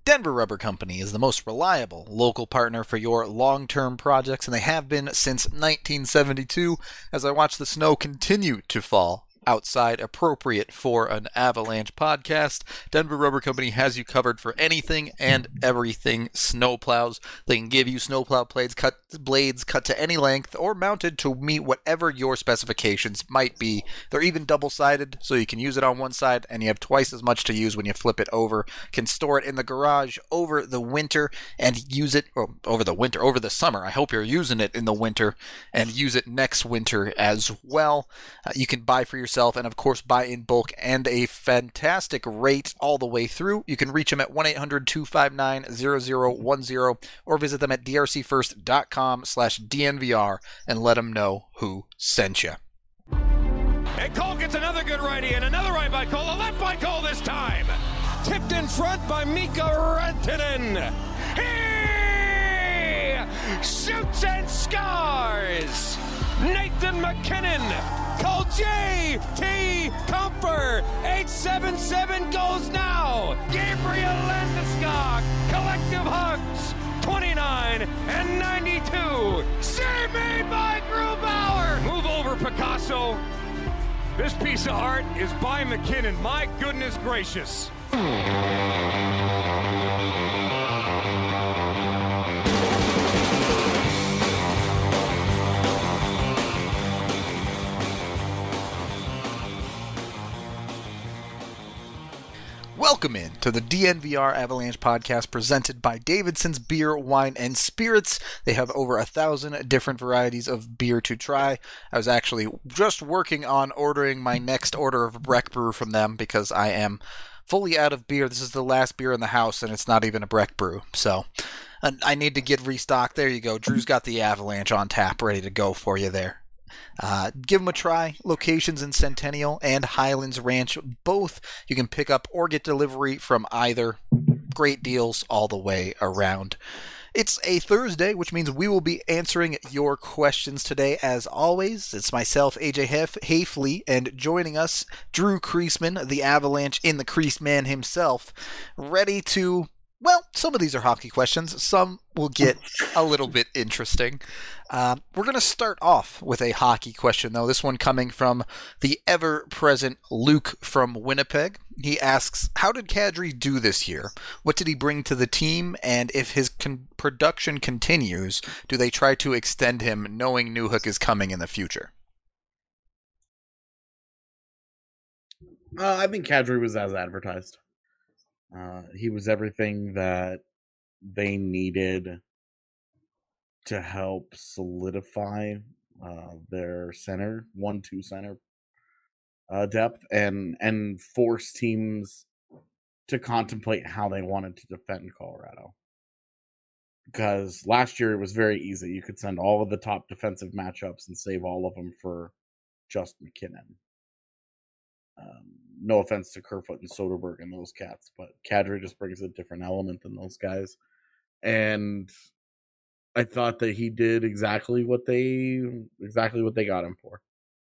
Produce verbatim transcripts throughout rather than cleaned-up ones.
Denver Rubber Company is the most reliable local partner for your long-term projects, and they have been since nineteen seventy-two. As I watch the snow continue to fall outside, appropriate for an Avalanche podcast, Denver Rubber Company has you covered for anything and everything snowplows. They can give you snowplow blades cut, blades cut to any length or mounted to meet whatever your specifications might be. They're even double-sided, so you can use it on one side and you have twice as much to use when you flip it over. Can store it in the garage over the winter and use it or over the winter, over the summer. I hope you're using it in the winter and use it next winter as well. Uh, you can buy for yourself and, of course, buy in bulk and a fantastic rate all the way through. You can reach them at one eight hundred two five nine zero zero one zero or visit them at drcfirst.com slash DNVR and let them know who sent you. And Cole gets another good righty and another right by Cole, a left by Cole this time. Tipped in front by Mika Rantanen. He shoots and scores. Nathan MacKinnon. Call J T Comfer. eight seven seven goes now. Gabriel Landeskog. Collective hugs. twenty-nine and ninety-two. Save made by Grubauer. Move over, Picasso. This piece of art is by McKinnon. My goodness gracious. Welcome in to the D N V R Avalanche podcast presented by Davidson's Beer, Wine, and Spirits. They have over a thousand different varieties of beer to try. I was actually just working on ordering my next order of Breck Brew from them because I am fully out of beer. This is the last beer in the house, and it's not even a Breck Brew. So I need to get restocked. There you go. Drew's got the Avalanche on tap ready to go for you there. Uh, give them a try. Locations in Centennial and Highlands Ranch, both you can pick up or get delivery from either. Great deals all the way around. It's a Thursday, which means we will be answering your questions today. As always, it's myself, A J Hef- Hafley, and joining us, Drew Creasman, the Avalanche in the Crease Man himself, ready to... Well, some of these are hockey questions. Some will get a little bit interesting. Uh, we're going to start off with a hockey question, though. This one coming from the ever-present Luke from Winnipeg. He asks, how did Kadri do this year? What did he bring to the team? And if his con- production continues, do they try to extend him knowing Newhook is coming in the future? Uh, I think Kadri was as advertised. Uh, he was everything that they needed to help solidify uh, their center, one two center uh, depth, and and force teams to contemplate how they wanted to defend Colorado. Because last year it was very easy. You could send all of the top defensive matchups and save all of them for just McKinnon. Um, no offense to Kerfoot and Soderberg and those cats, but Kadri just brings a different element than those guys. And I thought that he did exactly what they exactly what they got him for.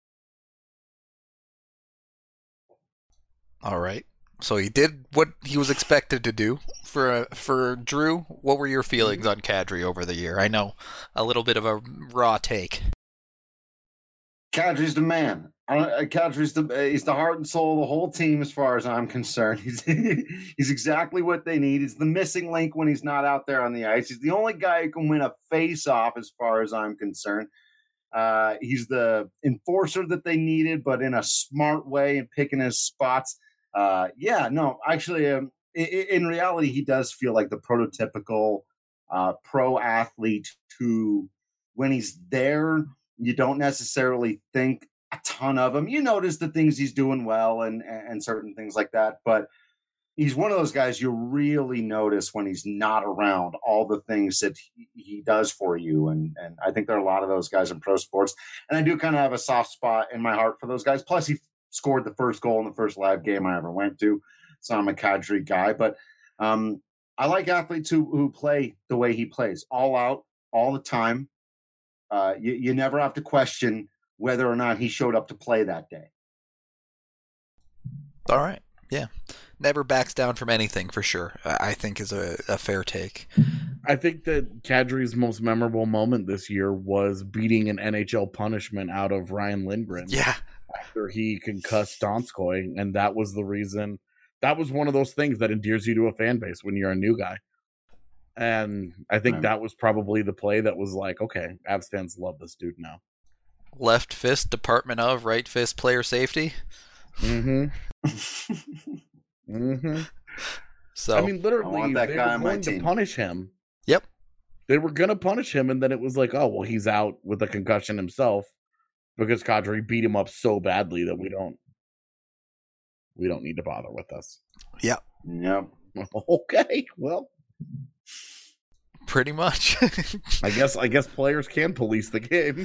All right. So he did what he was expected to do. For uh, for Drew, what were your feelings on Kadri over the year? I know a little bit of a raw take. Kadri's the man. Uh, Kadri's the he's the heart and soul of the whole team, as far as I'm concerned. He's he's exactly what they need. He's the missing link when he's not out there on the ice. He's the only guy who can win a face-off, as far as I'm concerned. Uh, he's the enforcer that they needed, but in a smart way and picking his spots. Uh, yeah, no, actually, um, in, in reality, he does feel like the prototypical uh, pro athlete who, when he's there, you don't necessarily think a ton of him. You notice the things he's doing well and, and certain things like that, but he's one of those guys you really notice when he's not around, all the things that he, he does for you. And, and I think there are a lot of those guys in pro sports. And I do kind of have a soft spot in my heart for those guys. Plus, he scored the first goal in the first live game I ever went to. So I'm a Kadri guy. But um, I like athletes who, who play the way he plays, all out, all the time. Uh, you, you never have to question whether or not he showed up to play that day. All right. Yeah. never backs down from anything for sure, I think is a, a fair take. I think that Kadri's most memorable moment this year was beating an N H L punishment out of Ryan Lindgren. Yeah. After he concussed Donskoy, and that was the reason. That was one of those things that endears you to a fan base when you're a new guy. And I think Right. that was probably the play that was like, okay, Avs fans love this dude now. Left fist, Department of, right fist, player safety. Mm-hmm. mm-hmm. So I mean, I literally, want that they guy were on my going to team. punish him. Yep. They were going to punish him, and then it was like, oh, well, he's out with a concussion himself because Kadri beat him up so badly that we don't we don't need to bother with this. Yep. Yep. Okay, well, Pretty much. I guess I guess players can police the game.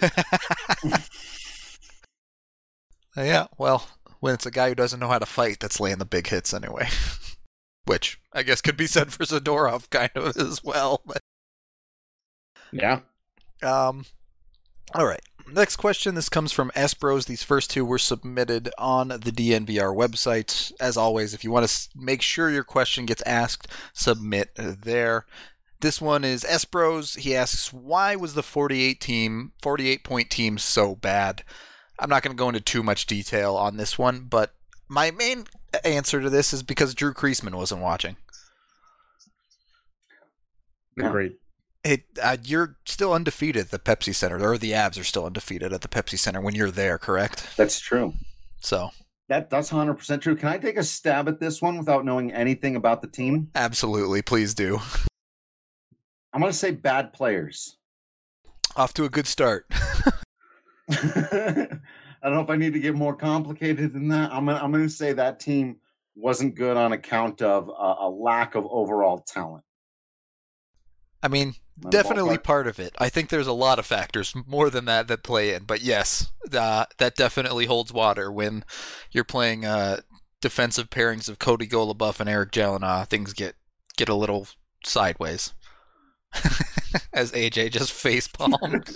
Yeah, well, when it's a guy who doesn't know how to fight that's laying the big hits anyway. Which I guess could be said for Zadorov kind of as well. But, Yeah. um, all right. Next question. This comes from Espros. These first two were submitted on the D N V R website. As always, if you want to s- make sure your question gets asked, submit there. This one is Espros. He asks, why was the forty-eight team, forty-eight point team so bad? I'm not going to go into too much detail on this one, but my main answer to this is because Drew Kreisman wasn't watching. Yeah. Agreed. It, uh, you're still undefeated at the Pepsi Center, or the Avs are still undefeated at the Pepsi Center when you're there, correct? That's true. So, That that's one hundred percent true. Can I take a stab at this one without knowing anything about the team? absolutely, please do. I'm going to say bad players. Off to a good start. I don't know if I need to get more complicated than that. I'm gonna, I'm going to say that team wasn't good on account of uh, a lack of overall talent. I mean, My definitely ballpark. part of it. I think there's a lot of factors more than that that play in, but yes, uh, that definitely holds water when you're playing uh, defensive pairings of Cody Golobuff and Eric Jalina. Things get get a little sideways. As A J just face palmed.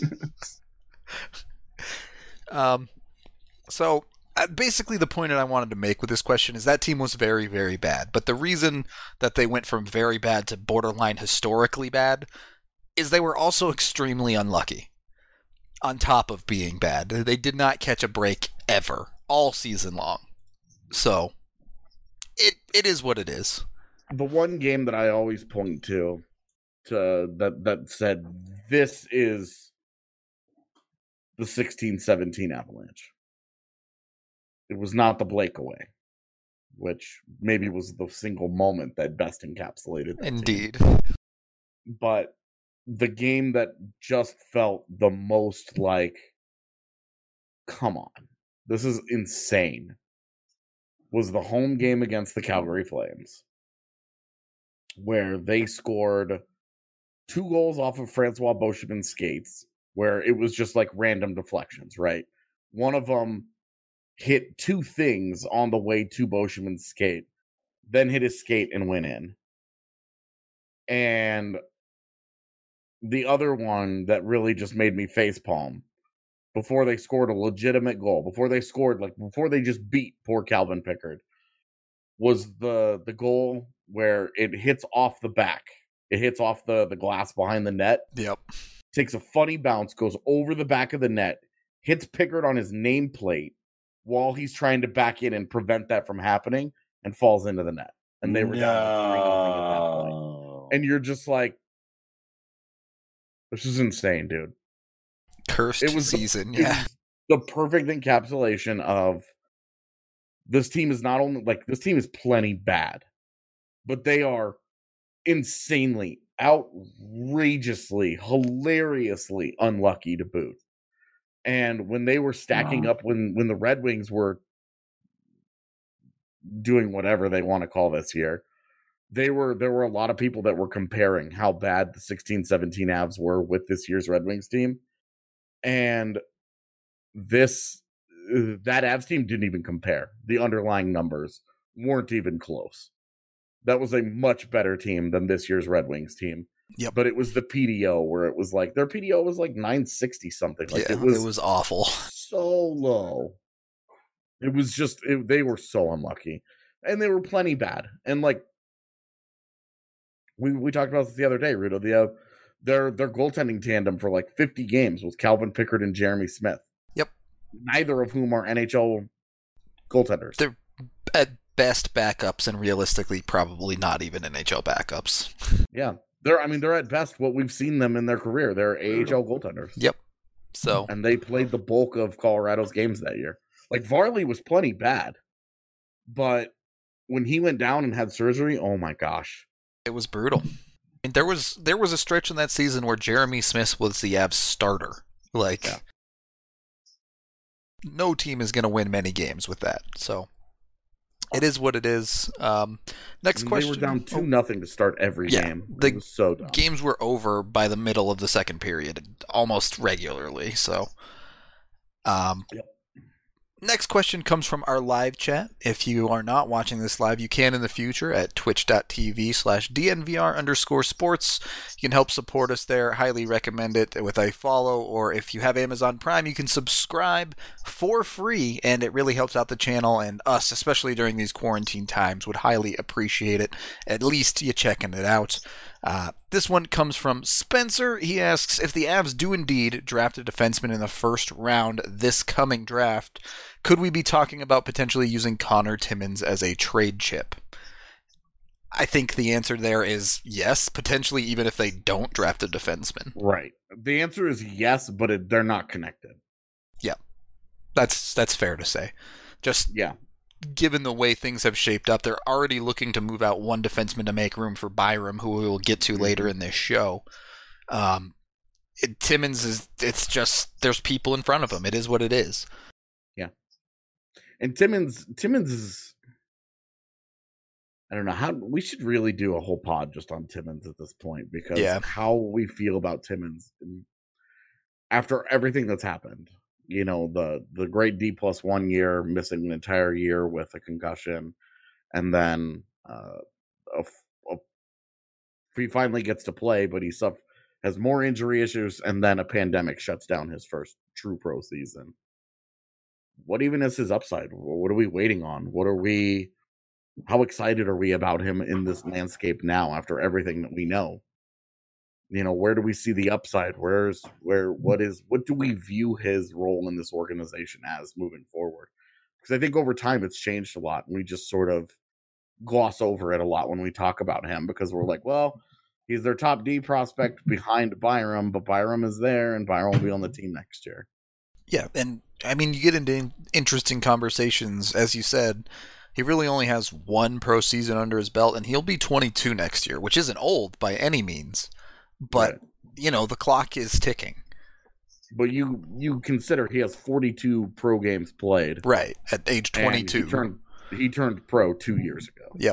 um, so uh, basically, the point that I wanted to make with this question is that team was very, very bad. But the reason that they went from very bad to borderline historically bad is they were also extremely unlucky. On top of being bad, they did not catch a break ever all season long. So it it is what it is. The one game that I always point to, to that that said this is the sixteen seventeen Avalanche. It was not the Blake away, which maybe was the single moment that best encapsulated that team. Indeed. But the game that just felt the most like, come on, this is insane, was the home game against the Calgary Flames, where they scored two goals off of Francois Beauchemin's skates, where it was just like random deflections, right? One of them hit two things on the way to Beauchemin's skate, then hit his skate and went in. And the other one that really just made me facepalm, before they scored a legitimate goal, before they scored, like before they just beat poor Calvin Pickard, was the the goal where it hits off the back. It hits off the, the glass behind the net, Yep. takes a funny bounce, goes over the back of the net, hits Pickard on his nameplate while he's trying to back in and prevent that from happening, and falls into the net. And they were down three nothing at that point. No. And you're just like, this is insane, dude. Cursed It was the- season, It yeah. was the perfect encapsulation of this team is not only like this team is plenty bad, but they are insanely, outrageously, hilariously unlucky to boot. And when they were stacking Wow. up, when when the Red Wings were doing whatever they want to call this year, they were there were a lot of people that were comparing how bad the sixteen seventeen Avs were with this year's Red Wings team. And this uh, that Avs team didn't even compare. The underlying numbers weren't even close. That was a much better team than this year's Red Wings team. Yep. But it was the P D O where it was like their P D O was like nine sixty something. Like yeah, it was it was awful. so low. It was just it, they were so unlucky. and they were plenty bad. And like we we talked about this the other day, Rudo. The uh, their their goaltending tandem for like fifty games was Calvin Pickard and Jeremy Smith. Yep. Neither of whom are N H L goaltenders. They're at best backups, and realistically, probably not even N H L backups. Yeah, they're. I mean, they're at best what we've seen them in their career. They're A H L goaltenders. Yep. So, and they played the bulk of Colorado's games that year. Like Varley was plenty bad, but when he went down and had surgery, oh my gosh, it was brutal. I mean, there was there was a stretch in that season where Jeremy Smith was the Avs starter. Like, yeah. No team is going to win many games with that. So, it is what it is. Um, next question. They were down two oh, nothing to start every yeah, game. It the was so dumb. Games were over by the middle of the second period, almost regularly. So, um, yep. Next question comes from our live chat. If you are not watching this live, you can in the future at twitch.tv slash DNVR underscore sports. You can help support us there. Highly recommend it with a follow, or if you have Amazon Prime, you can subscribe for free, and it really helps out the channel and us, especially during these quarantine times. Would highly appreciate it. At least you checking it out. Uh, this one comes from Spencer. He asks, if the Avs do indeed draft a defenseman in the first round this coming draft, could we be talking about potentially using Connor Timmins as a trade chip? I think the answer there is yes, potentially even if they don't draft a defenseman. Right. The answer is yes, but it, they're not connected. Yeah. That's that's fair to say. Just yeah. Given the way things have shaped up, they're already looking to move out one defenseman to make room for Byram, who we will get to later in this show. Um, it, Timmins is, it's just, there's people in front of him. It is what it is. Yeah. And Timmins, Timmins is, I don't know how, we should really do a whole pod just on Timmins at this point, because yeah. how we feel about Timmins after everything that's happened. You know, the the great D plus one year, missing an entire year with a concussion, and then uh, a, a, he finally gets to play, but he suff- has more injury issues, and then a pandemic shuts down his first true pro season. What even is his upside? What are we waiting on? What are we? How excited are we about him in this landscape now after everything that we know? You know, where do we see the upside? Where's where? What is? What do we view his role in this organization as moving forward? Because I think over time it's changed a lot, and we just sort of gloss over it a lot when we talk about him, because we're like, well, he's their top D prospect behind Byram, but Byram is there, and Byram will be on the team next year. Yeah, and I mean, you get into interesting conversations, as you said. He really only has one pro season under his belt, and he'll be twenty-two next year, which isn't old by any means. But, right. you know, the clock is ticking. But you you consider he has forty-two pro games played. Right, at age twenty-two. He turned, he turned pro two years ago. Yep.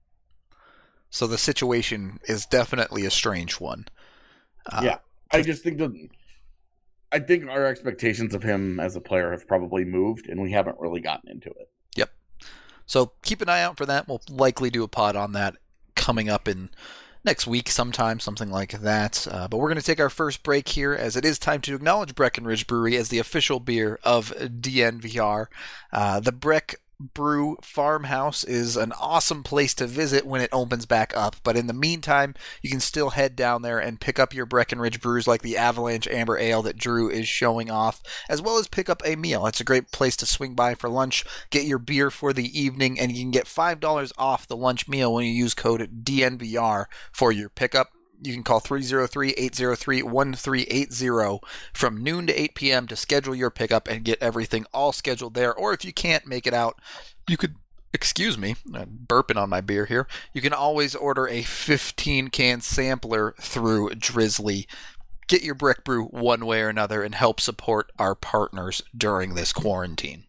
So the situation is definitely a strange one. Uh, yeah, I just think that I think our expectations of him as a player have probably moved, and we haven't really gotten into it. Yep. So keep an eye out for that. We'll likely do a pod on that coming up in next week sometime, something like that. Uh, but we're going to take our first break here, as it is time to acknowledge Breckenridge Brewery as the official beer of D N V R. Uh, the Breck Brew Farmhouse is an awesome place to visit when it opens back up, but in the meantime, you can still head down there and pick up your Breckenridge brews like the Avalanche Amber Ale that Drew is showing off, as well as pick up a meal. It's a great place to swing by for lunch, get your beer for the evening, and you can get five dollars off the lunch meal when you use code D N V R for your pickup. You can call three oh three, eight oh three, one three eight oh from noon to eight p.m. to schedule your pickup and get everything all scheduled there. Or if you can't make it out, you could, excuse me, I'm burping on my beer here. You can always order a fifteen-can sampler through Drizzly. Get your Breck Brew one way or another and help support our partners during this quarantine.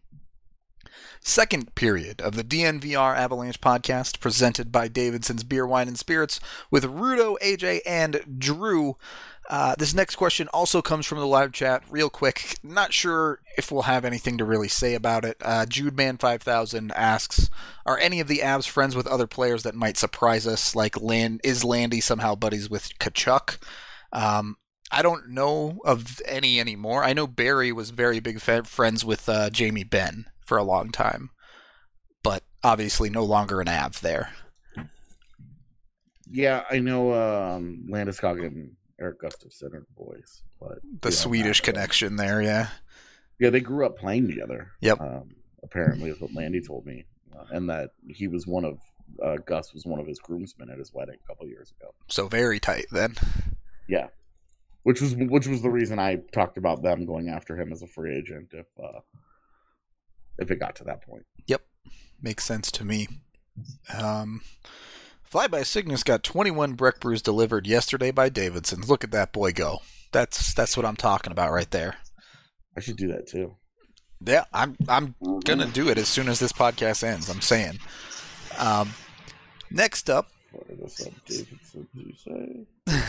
Second period of the D N V R Avalanche podcast, presented by Davidson's Beer, Wine, and Spirits with Rudo, A J, and Drew. Uh, this next question also comes from the live chat. Real quick, not sure if we'll have anything to really say about it. Uh, JudeMan five thousand asks, are any of the Avs friends with other players that might surprise us? Like, Land- is Landy somehow buddies with Tkachuk? Um, I don't know of any anymore. I know Barry was very big fa- friends with uh, Jamie Benn for a long time. But obviously no longer an A V there. Yeah, I know um, Landeskog and Eric Gustafsson are boys, but The Swedish connection there, yeah. Yeah, they grew up playing together. Yep. Um, apparently, is what Landy told me, uh, and that he was one of uh, Gus was one of his groomsmen at his wedding a couple years ago. So very tight then. Yeah, which was which was the reason I talked about them going after him as a free agent if uh, if it got to that point. Yep, makes sense to me. Um, Fly by Cygnus got twenty-one Breck brews delivered yesterday by Davidson. Look at that boy go. That's that's what I'm talking about right there. I should do that too. Yeah, I'm I'm gonna do it as soon as this podcast ends. I'm saying. Um, next up. Fire this up, Davidson, did you say?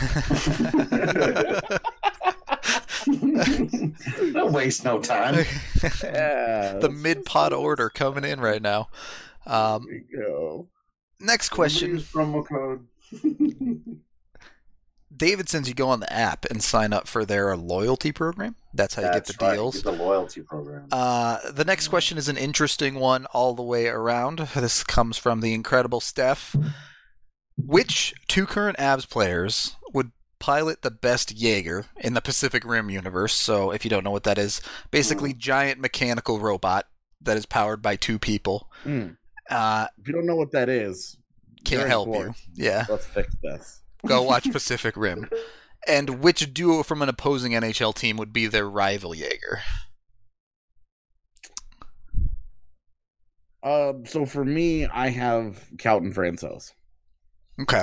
Don't waste no time. Yeah, The mid-pod order coming in right now. Um, there you go. next question. Use promo code. Davidson's, you go on the app and sign up for their loyalty program. That's how you That's get the right, deals. get the loyalty program. Uh, the next question is an interesting one all the way around. This comes from the incredible Steph. Which two current Avs players would pilot the best Jaeger in the Pacific Rim universe? So if you don't know what that is, basically giant mechanical robot that is powered by two people. Mm. Uh, If you don't know what that is, can't you're help bored. you. Yeah. Let's fix this. Go watch Pacific Rim. And which duo from an opposing N H L team would be their rival Jaeger? Uh, so for me, I have Calton Francois. Okay.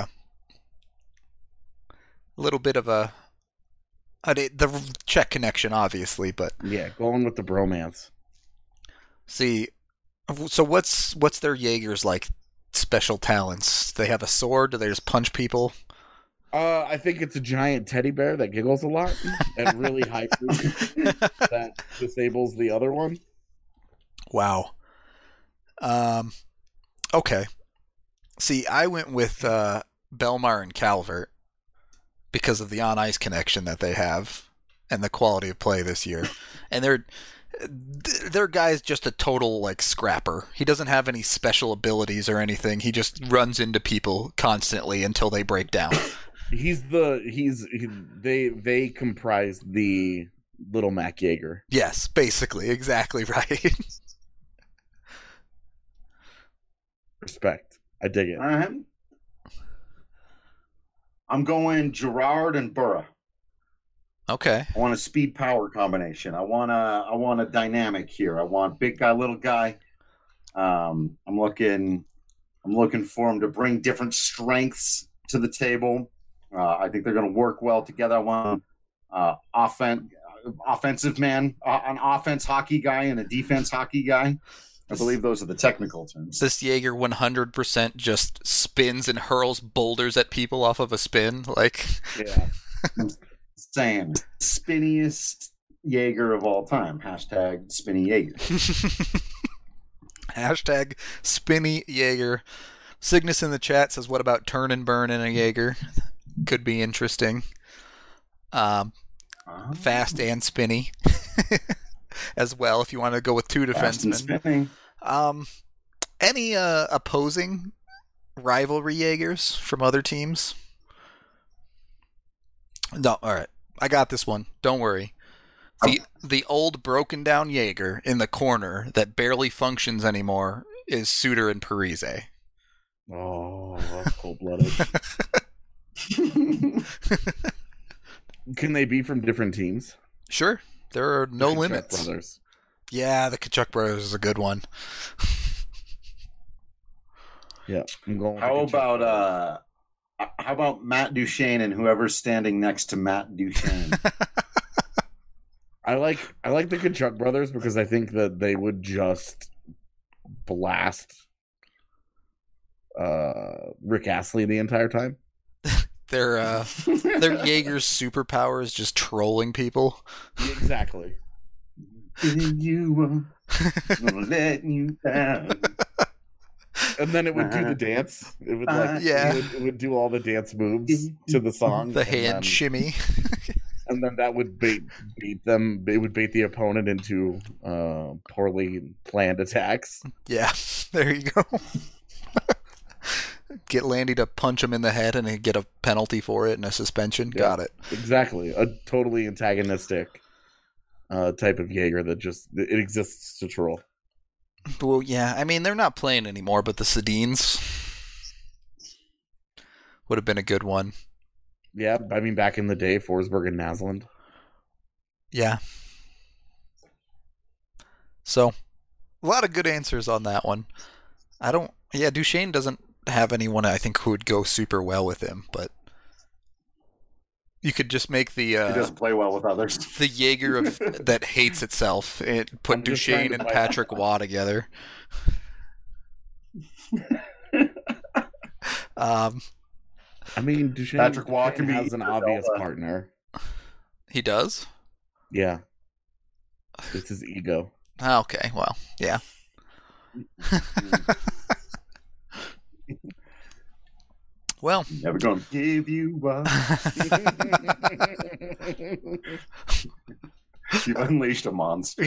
A little bit of a, a the Czech connection, obviously, but Yeah, going with the bromance. see, so what's what's their Jaeger's like special talents? They have a sword? Do they just punch people? Uh, I think it's a giant teddy bear that giggles a lot at really high frequency that disables the other one. Wow. Um. Okay. See, I went with uh, Belmar and Calvert because of the on-ice connection that they have and the quality of play this year. And they're their guy's just a total like scrapper. He doesn't have any special abilities or anything. He just runs into people constantly until they break down. He's the he's he, they they comprise the Little Mac Jaeger. Yes, basically, exactly right. Respect. I dig it. All right. I'm going Gerard and Burra. Okay. I want a speed power combination. I want a I want a dynamic here. I want big guy, little guy. Um, I'm looking I'm looking for them to bring different strengths to the table. Uh, I think they're going to work well together. I want uh, offen- offensive man, uh, an offense hockey guy, and a defense hockey guy. I believe those are the technical terms. This Jaeger one hundred percent just spins and hurls boulders at people off of a spin. Like, Yeah. Saying spinniest Jaeger of all time. Hashtag spinny Jaeger. hashtag spinny Jaeger. Cygnus in the chat says, what about turn and burn in a Jaeger? Could be interesting. Um, Uh, fast and spinny as well, if you want to go with two fast and defensemen. spinning. Um, any uh, opposing rivalry Jaegers from other teams? No, all right. I got this one. Don't worry. The the old broken down Jaeger in the corner that barely functions anymore is Suter and Parise. Oh, that's cold blooded. Can they be from different teams? Sure. There are no The Kachuk limits. Brothers. Yeah, the Kachuk brothers is a good one. Yeah, I'm going. With the How Kachuk about Brothers. uh, how about Matt Duchene and whoever's standing next to Matt Duchene? I like I like the Kachuk brothers because I think that they would just blast uh, Rick Astley the entire time. Their uh, their Jaeger's superpower is just trolling people. Exactly. you gonna let you down. And then it would do the dance. It would like Yeah. it would, it would do all the dance moves to the song. The and hand then- shimmy. And then that would bait beat them. It would bait the opponent into uh, poorly planned attacks. Yeah, there you go. Get Landy to punch him in the head and he'd get a penalty for it and a suspension. Yeah, Got it. Exactly. A totally antagonistic uh, type of Jaeger that just it exists to troll. Well, yeah, I mean, they're not playing anymore, but the Sedines would have been a good one. Yeah, I mean, back in the day, Forsberg and Naslund. Yeah. So, a lot of good answers on that one. I don't... Yeah, Duchesne doesn't have anyone, I think, who would go super well with him, but you could just make the... Uh, he doesn't play well with others. The Jaeger of, that hates itself. It put I'm just trying Duchesne to and find- Patrick Waugh together. um, I mean, Duchesne, Patrick Waugh Duchesne can be has an either obvious Zelda. partner. he does? Yeah. It's his ego. Ah, okay, well, yeah. Well, Never gonna give you up. You unleashed a monster.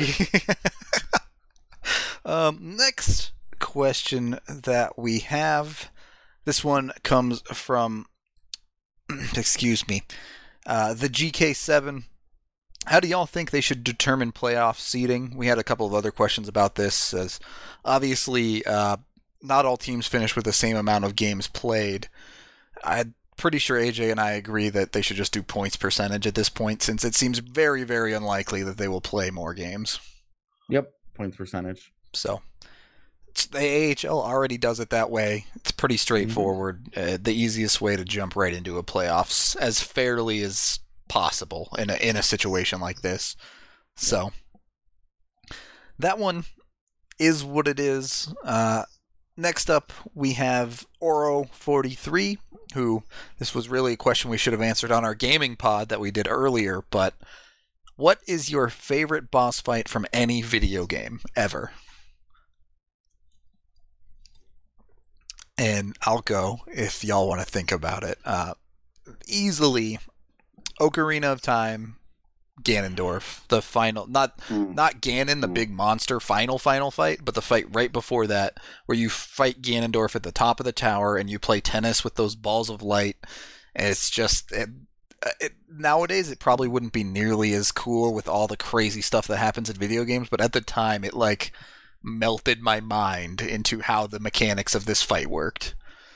um, next question that we have. This one comes from, excuse me, uh, the G K seven. How do y'all think they should determine playoff seeding? We had a couple of other questions about this, as obviously uh, not all teams finish with the same amount of games played. I'm pretty sure A J and I agree that they should just do points percentage at this point, since it seems very, very unlikely that they will play more games. Yep, points percentage. So it's, the A H L already does it that way. It's pretty straightforward. Mm-hmm. Uh, the easiest way to jump right into a playoffs as fairly as possible in a in a situation like this. So that one is what it is. Uh, next up, we have Oro forty-three, who this was really a question we should have answered on our gaming pod that we did earlier. But what is your favorite boss fight from any video game ever? And I'll go if y'all want to think about it. Uh, easily, Ocarina of Time, Ganondorf, the final, not Mm. not Ganon, the Mm. big monster final final fight, but the fight right before that, where you fight Ganondorf at the top of the tower and you play tennis with those balls of light. And it's just it, it, nowadays it probably wouldn't be nearly as cool with all the crazy stuff that happens in video games, but at the time it like melted my mind into how the mechanics of this fight worked.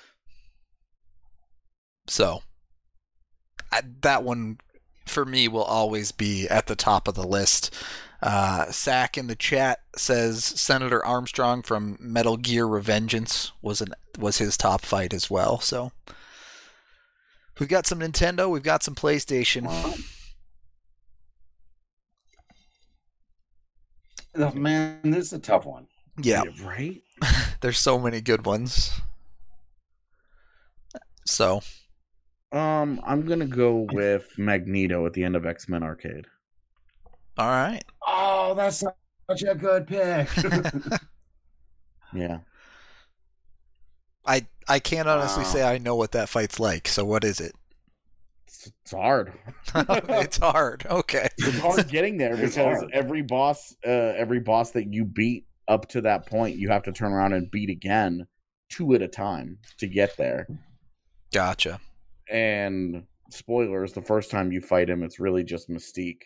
So I, that one for me will always be at the top of the list. Uh, Sack in the chat says Senator Armstrong from Metal Gear Revengeance was an was his top fight as well. So we've got some Nintendo, we've got some PlayStation. Oh, man, this is a tough one. Yeah, Right? there's so many good ones. So Um, I'm gonna go with Magneto at the end of X-Men Arcade. all right. Oh, that's such a good pick. Yeah. I I can't honestly Wow. say I know what that fight's like. So what is it? It's, it's hard. It's hard. Okay. It's hard getting there It's because hard. every boss, uh, every boss that you beat up to that point, you have to turn around and beat again, two at a time, to get there. Gotcha. And spoilers: the first time you fight him, it's really just Mystique.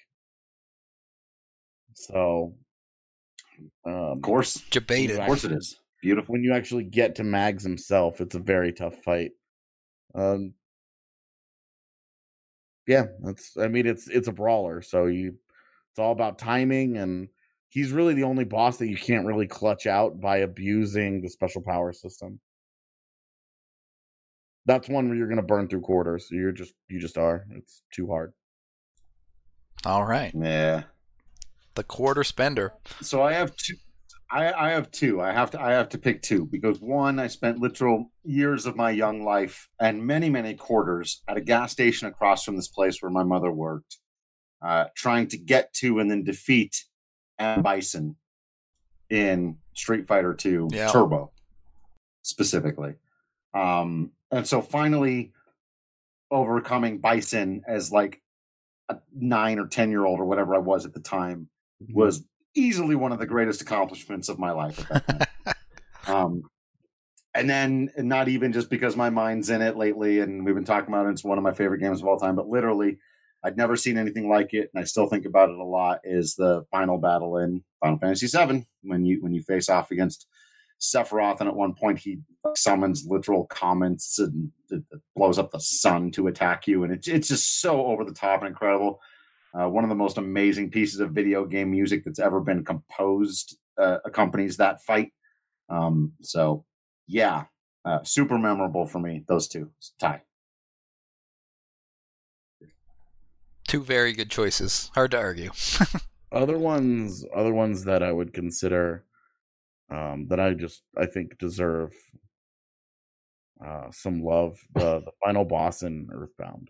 So, um, Of course. Debated. Of course it is. Beautiful. when you actually get to Mags himself, it's a very tough fight. Um, yeah, that's. I mean, it's it's a brawler, so you. It's all about timing, and he's really the only boss that you can't really clutch out by abusing the special power system. That's one where you're going to burn through quarters. You're just you just are. It's too hard. All right. Yeah. The quarter spender. So I have two. I, I have two. I have to. I have to pick two because one, I spent literal years of my young life and many, many quarters at a gas station across from this place where my mother worked, uh, trying to get to and then defeat M. Bison in Street Fighter two Yeah. Turbo, specifically. Um, and so finally overcoming Bison as like a nine or ten year old or whatever I was at the time was easily one of the greatest accomplishments of my life at that time. um, and then not even just because my mind's in it lately, and we've been talking about it. It's one of my favorite games of all time, but literally, I'd never seen anything like it, and I still think about it a lot. Is the final battle in Final Fantasy seven when you when you face off against Sephiroth, and at one point he summons literal comets and it blows up the sun to attack you, and it's it's just so over the top and incredible. Uh, one of the most amazing pieces of video game music that's ever been composed uh, accompanies that fight. Um, so, yeah, uh, super memorable for me. Those two tie. Two very good choices. Hard to argue. other ones, other ones that I would consider um, that I just I think deserve uh, some love. The the final boss in Earthbound.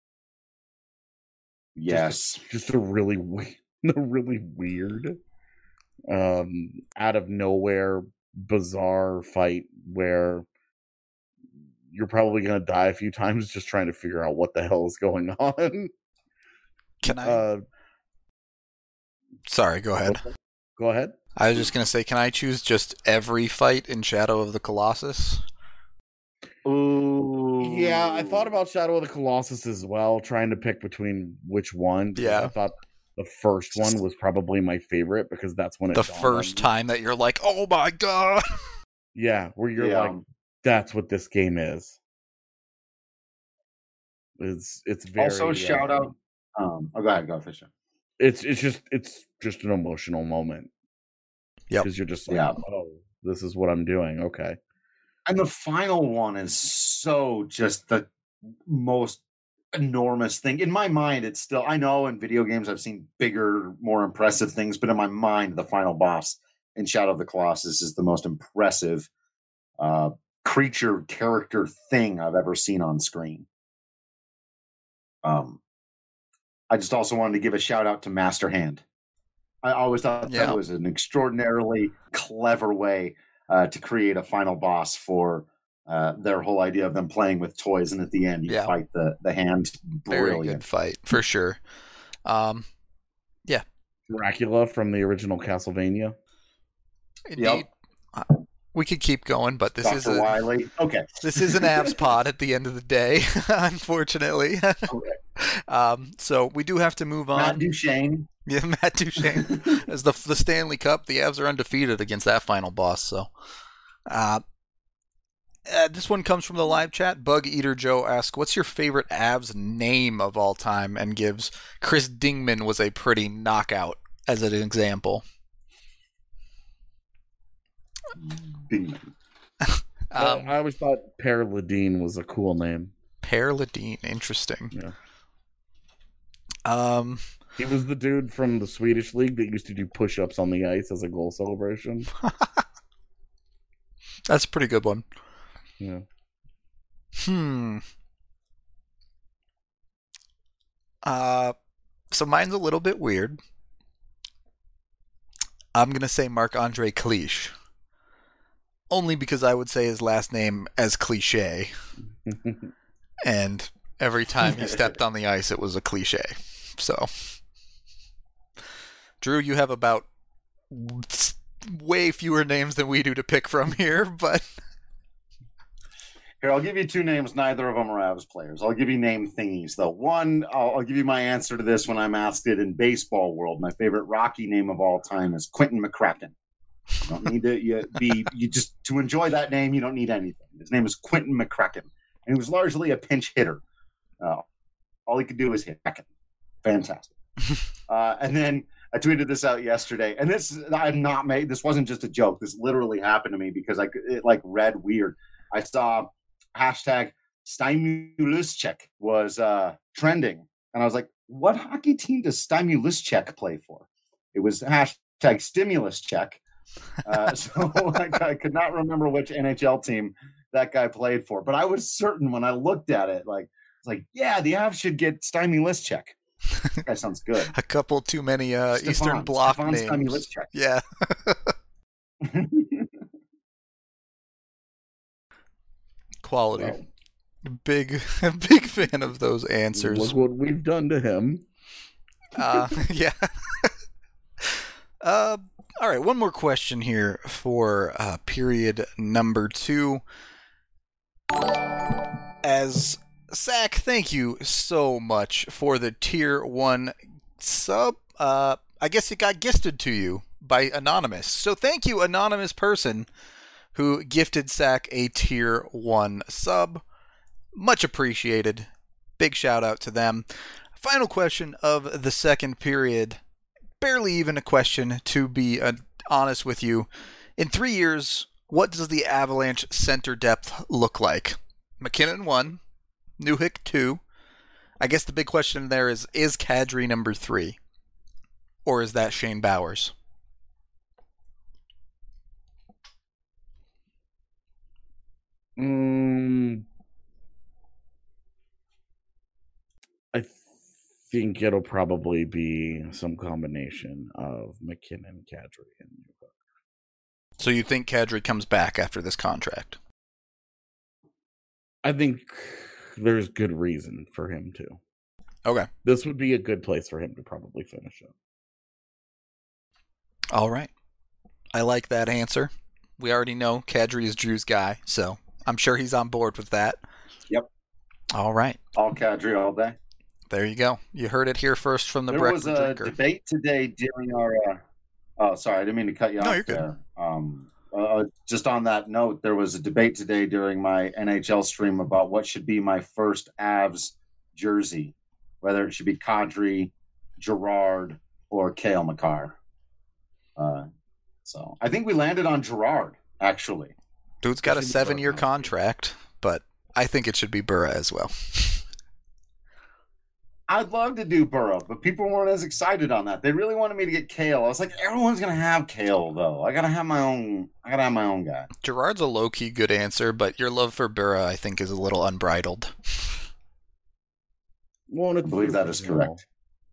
Yes, just a, just a really a really weird, um, out of nowhere, bizarre fight where you're probably gonna die a few times just trying to figure out what the hell is going on. Can I? Uh, Sorry, go ahead. Go ahead. I was just gonna say, can I choose just every fight in Shadow of the Colossus? Ooh. Yeah, I thought about Shadow of the Colossus as well, trying to pick between which one. Yeah. I thought the first one was probably my favorite because that's when it The dawned first on me. time that you're like, oh my god! Yeah, where you're Yeah. like, that's what this game is. It's it's very Also, shout uh, out. Um, oh, go ahead, go Fisher. It's it's just it's just an emotional moment. Yep. Because you're just like, Yeah. oh, this is what I'm doing. Okay. And the final one is so just the most enormous thing. In my mind, it's still, I know in video games I've seen bigger, more impressive things, but in my mind, the final boss in Shadow of the Colossus is the most impressive uh, creature, character thing I've ever seen on screen. Um, I just also wanted to give a shout out to Master Hand. I always thought Yeah. that was an extraordinarily clever way uh, to create a final boss for uh, their whole idea of them playing with toys, and at the end you Yeah. fight the the hand. Very Brilliant. good fight, for sure. Um, Dracula from the original Castlevania. indeed. Uh, We could keep going, but this is Doctor a, Wily. Okay. this is an Avs pod at the end of the day, unfortunately. Okay. um, so we do have to move on. Matt Duchene. Yeah, Matt Duchene. As the the Stanley Cup, the Avs are undefeated against that final boss. So, uh, uh, this one comes from the live chat. Bug Eater Joe asks, "What's your favorite Avs name of all time?" And gives Chris Dingman was a pretty knockout as an example. Bingman. Um, I always thought Per Ladine was a cool name. Per Ladine, interesting. Yeah. Um, He was the dude from the Swedish league that used to do push-ups on the ice as a goal celebration. that's a pretty good one. Yeah. Hmm. Uh, so mine's a little bit weird. I'm gonna say Marc-Andre Cliche. Only because I would say his last name as cliche. And every time he stepped on the ice, it was a cliche. So, Drew, you have about way fewer names than we do to pick from here, but Here, I'll give you two names. Neither of them are Avs players. I'll give you name thingies, though. One, I'll, I'll give you my answer to this when I'm asked it in baseball world. My favorite Rocky name of all time is Quentin McCracken. You don't need to you be you just to enjoy that name. You don't need anything. His name is Quentin McCracken, and he was largely a pinch hitter. Uh, all he could do was hit. Fantastic. uh, and then I tweeted this out yesterday, and this I'm not made. This wasn't just a joke. This literally happened to me because I it like read weird. I saw hashtag Stymulischek was uh, trending, and I was like, "What hockey team does Stymulischek play for?" It was hashtag stimulus check. Uh, so like, I could not remember which N H L team that guy played for, but I was certain when I looked at it, like, it's like, yeah, the Avs should get Stymulischek. That guy sounds good. a couple too many uh, Stefan, Eastern Bloc Stefan names. Stymulischek. Yeah. Quality. Well, Big, big fan of those answers. look what we've done to him. Uh, yeah. uh, all right, one more question here for uh, period number two. As Zach, thank you so much for the tier one sub. Uh, I guess it got gifted to you by Anonymous. So thank you, anonymous person who gifted Zach a tier one sub. Much appreciated. Big shout out to them. Final question of the second period. Barely even a question, to be uh, honest with you. In three years, what does the Avalanche center depth look like? McKinnon one, Newhook two. I guess the big question there is, is Kadri number three? Or is that Shane Bowers? Mm, I think it'll probably be some combination of McKinnon, Kadri, and Newhook. So you think Kadri comes back after this contract? I think there's good reason for him to. Okay. This would be a good place for him to probably finish up. All right. I like that answer. We already know Kadri is Drew's guy, so I'm sure he's on board with that. Yep. All right. All Kadri all day. There you go. You heard it here first from the there breakfast was a drinker. debate today during our. Uh, oh, sorry, I didn't mean to cut you No, off you're good. there. Um, uh, just on that note, there was a debate today during my N H L stream about what should be my first Avs jersey, whether it should be Kadri, Gerard, or Cale Makar. Uh, so I think we landed on Gerard, actually. Dude's got a Should be seven-year Burrow. contract, but I think it should be Burra as well. I'd love to do Burrow, but people weren't as excited on that. They really wanted me to get Cale. I was like, everyone's gonna have Cale though. I gotta have my own. I gotta have my own guy. Gerard's a low-key good answer, but your love for Burra, I think, is a little unbridled. Well, I believe that is correct.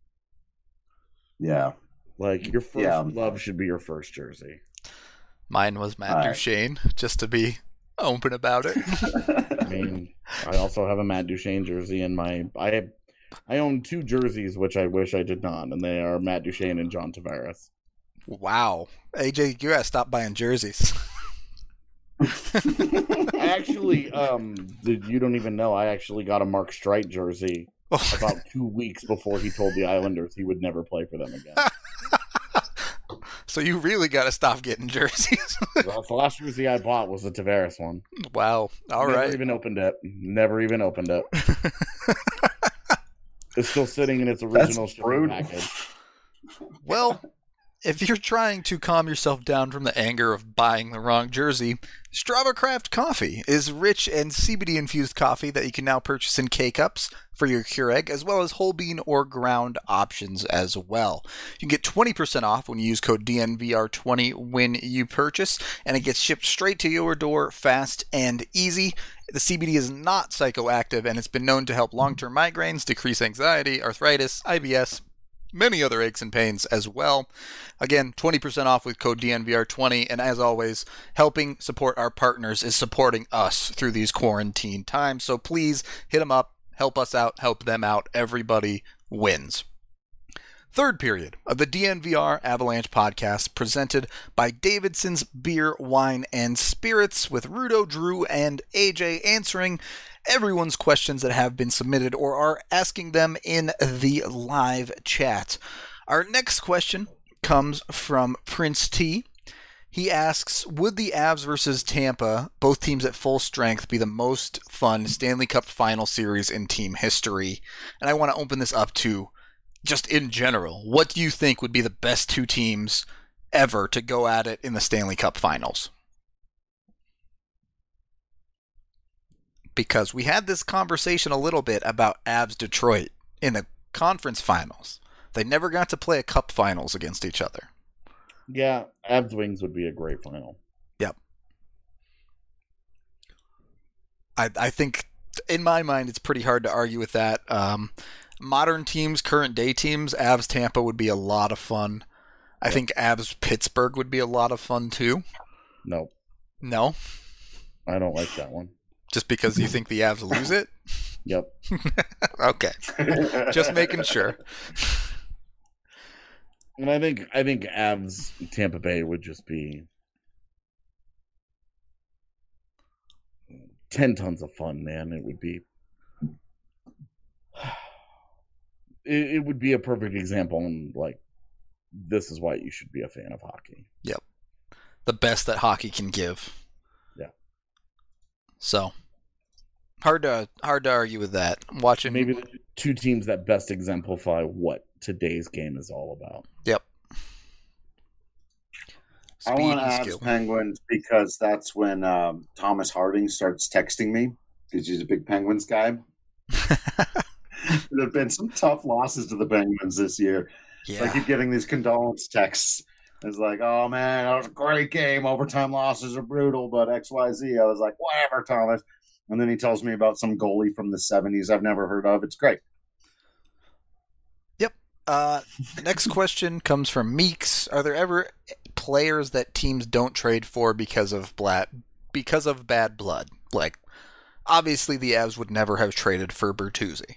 Yeah. Like, your first Yeah. love should be your first jersey. Mine was Matt All right. Duchene, just to be open about it. I mean, I also have a Matt Duchene jersey in my... I I own two jerseys, which I wish I did not, and they are Matt Duchene and John Tavares. Wow. A J, you gotta stop buying jerseys. I actually, um, you don't even know, I actually got a Mark Streit jersey about two weeks before he told the Islanders he would never play for them again. So you really gotta stop getting jerseys. That's the last jersey I bought was the Tavares one. Wow. All Never right. even opened it. Never even opened it. It's still sitting in its original That's shipping brutal. package. Well, if you're trying to calm yourself down from the anger of buying the wrong jersey, Strava Craft Coffee is rich and C B D-infused coffee that you can now purchase in K-Cups for your Keurig, as well as whole bean or ground options as well. You can get twenty percent off when you use code D N V R twenty when you purchase, and it gets shipped straight to your door fast and easy. The C B D is not psychoactive, and it's been known to help long-term migraines, decrease anxiety, arthritis, I B S, many other aches and pains as well. Again, twenty percent off with code D N V R twenty, and as always, helping support our partners is supporting us through these quarantine times. So please hit them up, help us out, help them out. Everybody wins. Third period of the D N V R Avalanche podcast, presented by Davidson's Beer, Wine, and Spirits, with Rudo, Drew, and A J answering everyone's questions that have been submitted or are asking them in the live chat. Our next question comes from Prince T. He asks, would the Avs versus Tampa, both teams at full strength, be the most fun Stanley Cup final series in team history? And I want to open this up to just in general. What do you think would be the best two teams ever to go at it in the Stanley Cup finals? Because we had this conversation a little bit about Avs Detroit in the conference finals. They never got to play a cup finals against each other. Yeah, Avs Wings would be a great final. Yep. I I think, in my mind, it's pretty hard to argue with that. Um, modern teams, current day teams, Avs Tampa would be a lot of fun. I Yep. think Avs Pittsburgh would be a lot of fun too. No, No? I don't like that one. Just because you think the Avs lose it? Yep. Okay. Just making sure. And I think I think Avs Tampa Bay would just be ten tons of fun, man. It would be it, it would be a perfect example, and like this is why you should be a fan of hockey. Yep. The best that hockey can give. Yeah. So hard to hard to argue with that. Watching maybe the two teams that best exemplify what today's game is all about. Yep. I Speed want and Avs skill. Penguins because that's when um, Thomas Harding starts texting me because he's a big Penguins guy. There have been some tough losses to the Penguins this year. Yeah. So I keep getting these condolence texts. It's like, oh man, that was a great game. Overtime losses are brutal, but X Y Z. I was like, whatever, Thomas. And then he tells me about some goalie from the seventies I've never heard of. It's great. Yep. Uh, next question comes from Meeks. Are there ever players that teams don't trade for because of bla- because of bad blood? Like, obviously the Avs would never have traded for Bertuzzi.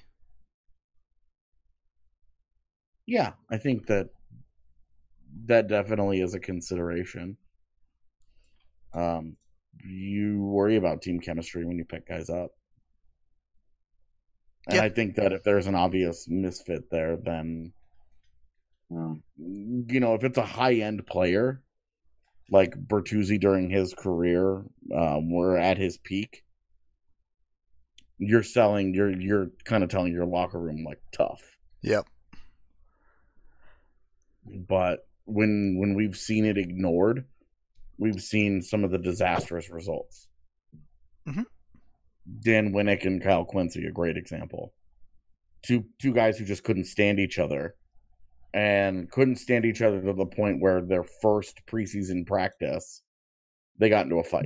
Yeah, I think that that definitely is a consideration. Um, you worry about team chemistry when you pick guys up. And Yep. I think that if there's an obvious misfit there, then, Um, you know, if it's a high-end player, like Bertuzzi during his career, um, we're at his peak, you're selling, you're, you're kind of telling your locker room, like, tough. Yep. But when when we've seen it ignored, we've seen some of the disastrous results. Mhm. Dan Winnick and Kyle Quincy, a great example. Two two guys who just couldn't stand each other, and couldn't stand each other to the point where their first preseason practice, they got into a fight.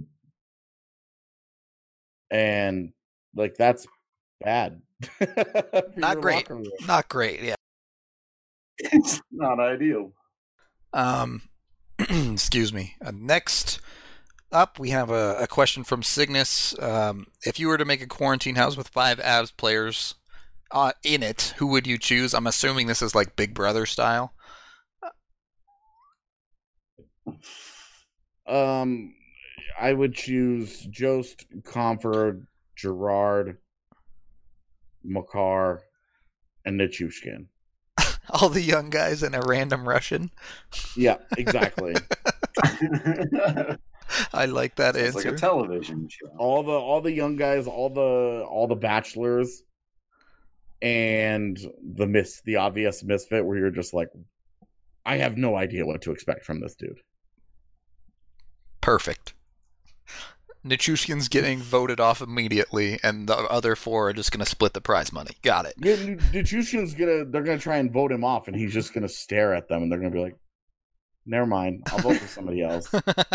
And like that's bad. For Not your great. locker room. Not great, yeah. it's not ideal. Um, excuse me. Uh, next up, we have a, a question from Cygnus. Um, if you were to make a quarantine house with five Avs players uh, in it, who would you choose? I'm assuming this is like Big Brother style. Um, I would choose Jost, Comfort, Gerard, Makar, and Nichushkin. All the young guys and a random Russian. Yeah, exactly. I like that It's like answer. a television show. all the all the young guys, all the all the bachelors, and the miss the obvious misfit where you're just like, I have no idea what to expect from this dude. Perfect. Nichushkin's getting voted off immediately, and the other four are just going to split the prize money. Got it. Yeah, Nichushkin's gonna they're gonna try and vote him off, and he's just gonna stare at them, and they're gonna be like, never mind, I'll vote for somebody else.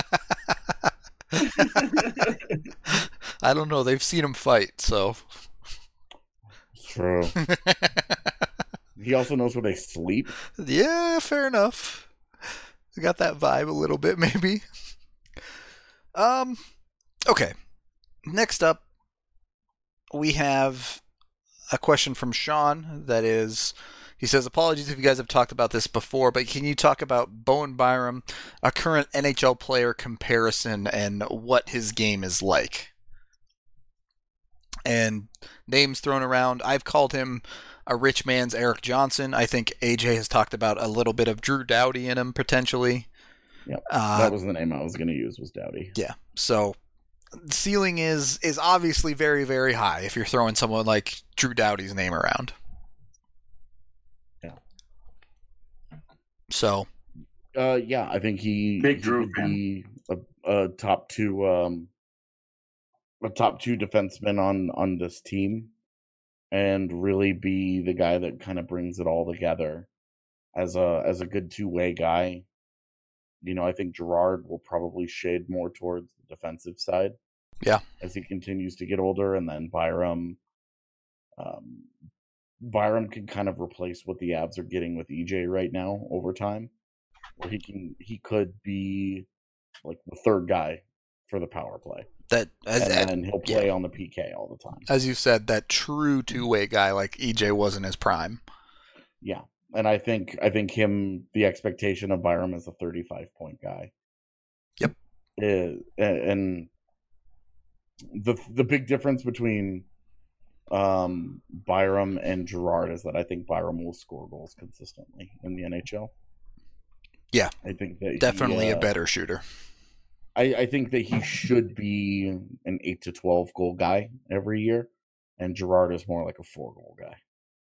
I don't know. They've seen him fight, so. It's true. He also knows where they sleep. Yeah, fair enough. I got that vibe a little bit, maybe. Um, okay. Next up, we have a question from Sean that is, he says, apologies if you guys have talked about this before, but can you talk about Bowen Byram, a current N H L player comparison, and what his game is like? And names thrown around. I've called him a rich man's Eric Johnson. I think A J has talked about a little bit of Drew Doughty in him, potentially. Yep. Uh, That was the name I was going to use, was Doughty. Yeah. So ceiling is is obviously very, very high if you're throwing someone like Drew Doughty's name around. Yeah. So Uh, yeah, I think he, Big he Drew would fan. be a, a top two, um, a top two defenseman on on this team, and really be the guy that kind of brings it all together as a as a good two way guy. You know, I think Gerard will probably shade more towards the defensive side. Yeah. As he continues to get older, and then Byram, um, Byram can kind of replace what the Avs are getting with E J right now over time, where he can he could be like the third guy for the power play, that as and then he'll yeah. play on the P K all the time. as you said, that true two way guy like E J was in his prime. Yeah, and I think I think him the expectation of Byram is a thirty-five point guy. Yep. Is, and the the big difference between um, Byram and Girard is that I think Byram will score goals consistently in the N H L. Yeah, I think that definitely he, uh, a better shooter. I, I think that he should be an eight to twelve goal guy every year, and Girard is more like a four goal guy.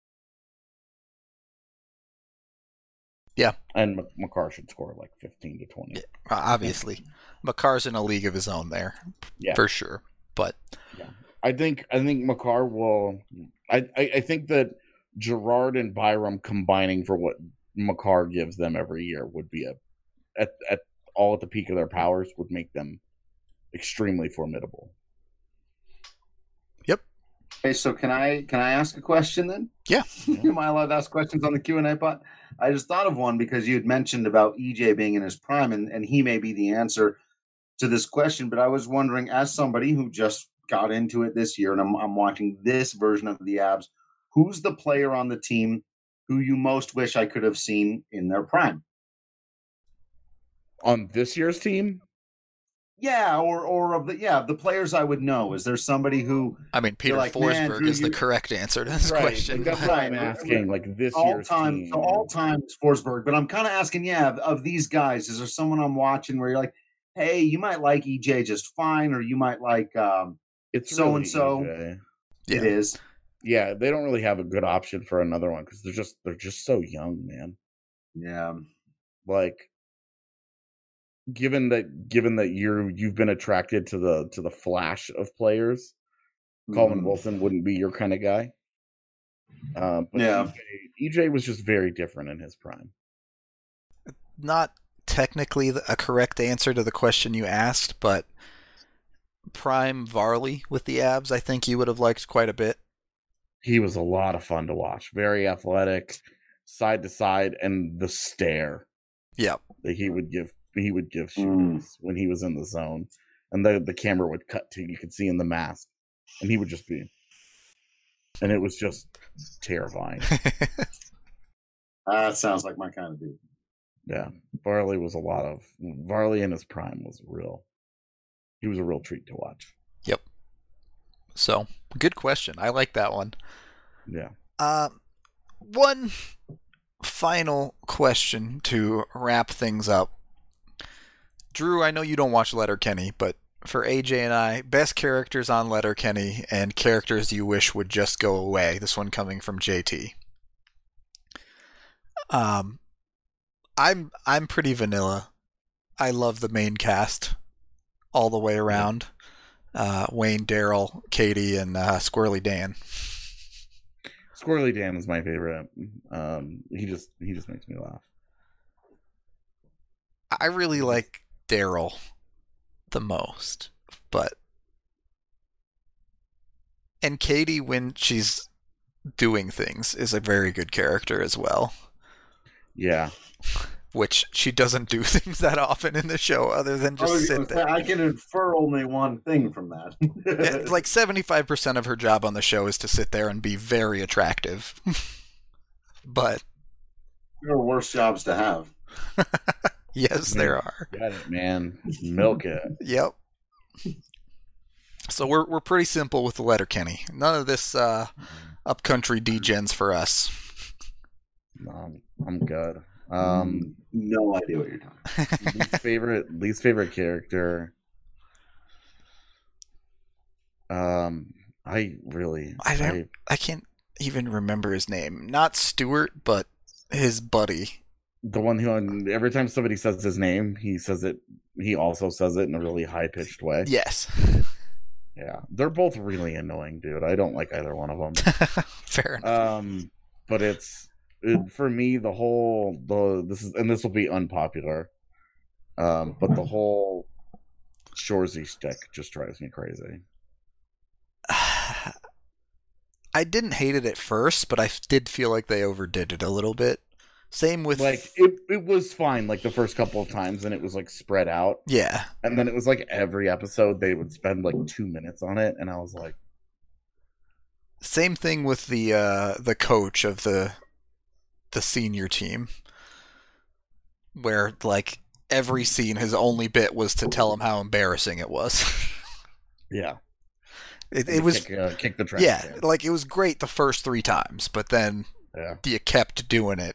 Yeah, and Makar should score like fifteen to twenty. Yeah, obviously, Makar's in a league of his own there, yeah, for sure. But yeah. I think I think Makar will. I, I I think that Girard and Byram combining for what Makar gives them every year would be a at at all at the peak of their powers would make them extremely formidable. Yep. Okay, so can I can I ask a question then? Yeah. Am I allowed to ask questions on the Q and A bot? I just thought of one because you had mentioned about E J being in his prime, and, and he may be the answer to this question. But I was wondering, as somebody who just got into it this year, and I'm, I'm watching this version of the Abs, who's the player on the team who you most wish I could have seen in their prime? On this year's team? Yeah, or or of the yeah the players I would know. Is there somebody who? I mean, Peter like, Forsberg is you, the correct answer to this right, question. That's what I'm asking. Like this all year's time, team. So all time is Forsberg, but I'm kind of asking, yeah, of, of these guys, is there someone I'm watching where you're like, hey, you might like E J just fine, or you might like um, it's so really and so. Yeah. It is. Yeah, they don't really have a good option for another one because they're just they're just so young, man. Yeah, like. Given that, given that you're you've been attracted to the to the flash of players, mm-hmm. Coleman Wilson wouldn't be your kind of guy. Uh, but yeah, E J, E J was just very different in his prime. Not technically a correct answer to the question you asked, but prime Varley with the Abs, I think you would have liked quite a bit. He was a lot of fun to watch. Very athletic, side to side, and the stare. Yeah, that he would give. He would give shooters mm. when he was in the zone, and the the camera would cut to you could see in the mask, and he would just be, and it was just terrifying. uh, that sounds like my kind of dude. Yeah, Varley was a lot of Varley in his prime was real. He was a real treat to watch. Yep. So good question. I like that one. Yeah. Uh, one final question to wrap things up. Drew, I know you don't watch Letterkenny, but for A J and I, best characters on Letterkenny and characters you wish would just go away. This one coming from J T. Um, I'm I'm pretty vanilla. I love the main cast all the way around. Uh, Wayne, Daryl, Katie, and uh, Squirrely Dan. Squirrely Dan is my favorite. Um, he just he just makes me laugh. I really like Daryl the most, but and Katie, when she's doing things, is a very good character as well. Yeah, which she doesn't do things that often in the show, other than just sit there. I can infer only one thing from that. Yeah, like seventy-five percent of her job on the show is to sit there and be very attractive. But there are worse jobs to have. Yes, there are. Got it, man. Milk it. Yep. So we're we're pretty simple with the Letterkenny. None of this uh, upcountry degens for us. No, I'm good. Um, no idea what you're talking. least favorite, least favorite character. Um, I really, I don't, I, I can't even remember his name. Not Stuart, but his buddy. The one who, every time somebody says his name, he says it. He also says it in a really high pitched way. Yes. Yeah, they're both really annoying, dude. I don't like either one of them. Fair enough. Um, but it's it, for me the whole the this is and this will be unpopular. Um, but the whole Shoresy stick just drives me crazy. I didn't hate it at first, but I did feel like they overdid it a little bit. Same with like it. It was fine like the first couple of times, and it was like spread out. Yeah, and then it was like every episode they would spend like two minutes on it, and I was like, same thing with the uh, the coach of the the senior team, where like every scene, his only bit was to tell him how embarrassing it was. Yeah. It, it was kick, uh, kick the trash. yeah, can. like it was great the first three times, but then Yeah. you kept doing it.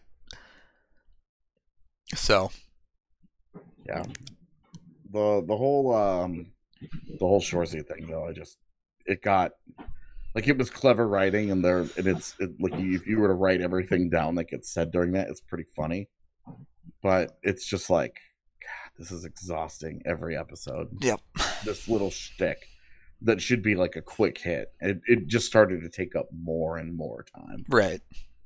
So Yeah. The the whole um the whole Shoresy thing though, I just it got like it was clever writing and there and it's it, like if you were to write everything down that gets said during that, it's pretty funny. But it's just like, God, this is exhausting every episode. Yep. This little shtick that should be like a quick hit. It it just started to take up more and more time. Right.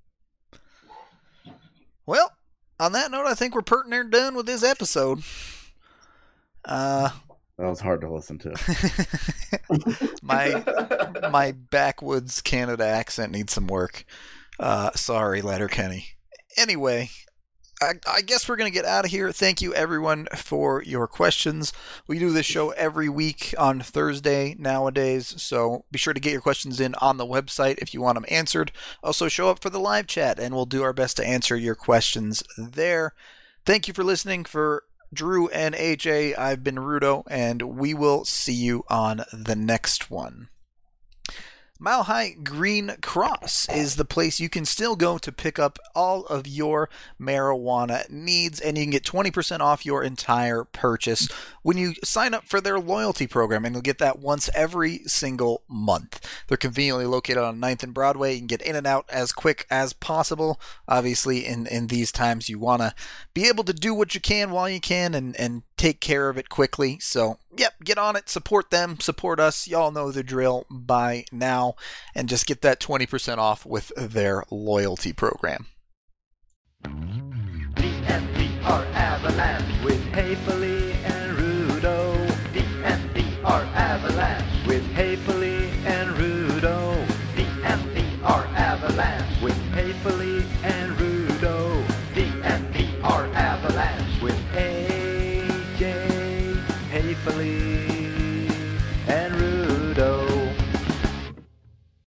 Well, on that note, I think we're pretty near done with this episode. Uh, That was hard to listen to. my my backwoods Canada accent needs some work. Uh, sorry, Letterkenny. Anyway, I, I guess we're going to get out of here. Thank you, everyone, for your questions. We do this show every week on Thursday nowadays, so be sure to get your questions in on the website if you want them answered. Also, show up for the live chat, and we'll do our best to answer your questions there. Thank you for listening. For Drew and A J, I've been Rudo, and we will see you on the next one. Mile High Green Cross is the place you can still go to pick up all of your marijuana needs, and you can get twenty percent off your entire purchase when you sign up for their loyalty program, and you'll get that once every single month. They're conveniently located on ninth and Broadway. You can get in and out as quick as possible. Obviously, in, in these times, you want to be able to do what you can while you can and, and take care of it quickly. So, yep, get on it, support them, support us. Y'all know the drill by now, and just get that twenty percent off with their loyalty program. D N V R Avalanche with Haefele and Rudo. D N V R Avalanche with Haefele and Rudo. D N V R Avalanche with Haefele and Rudo. D N V R Avalanche with A J Haefele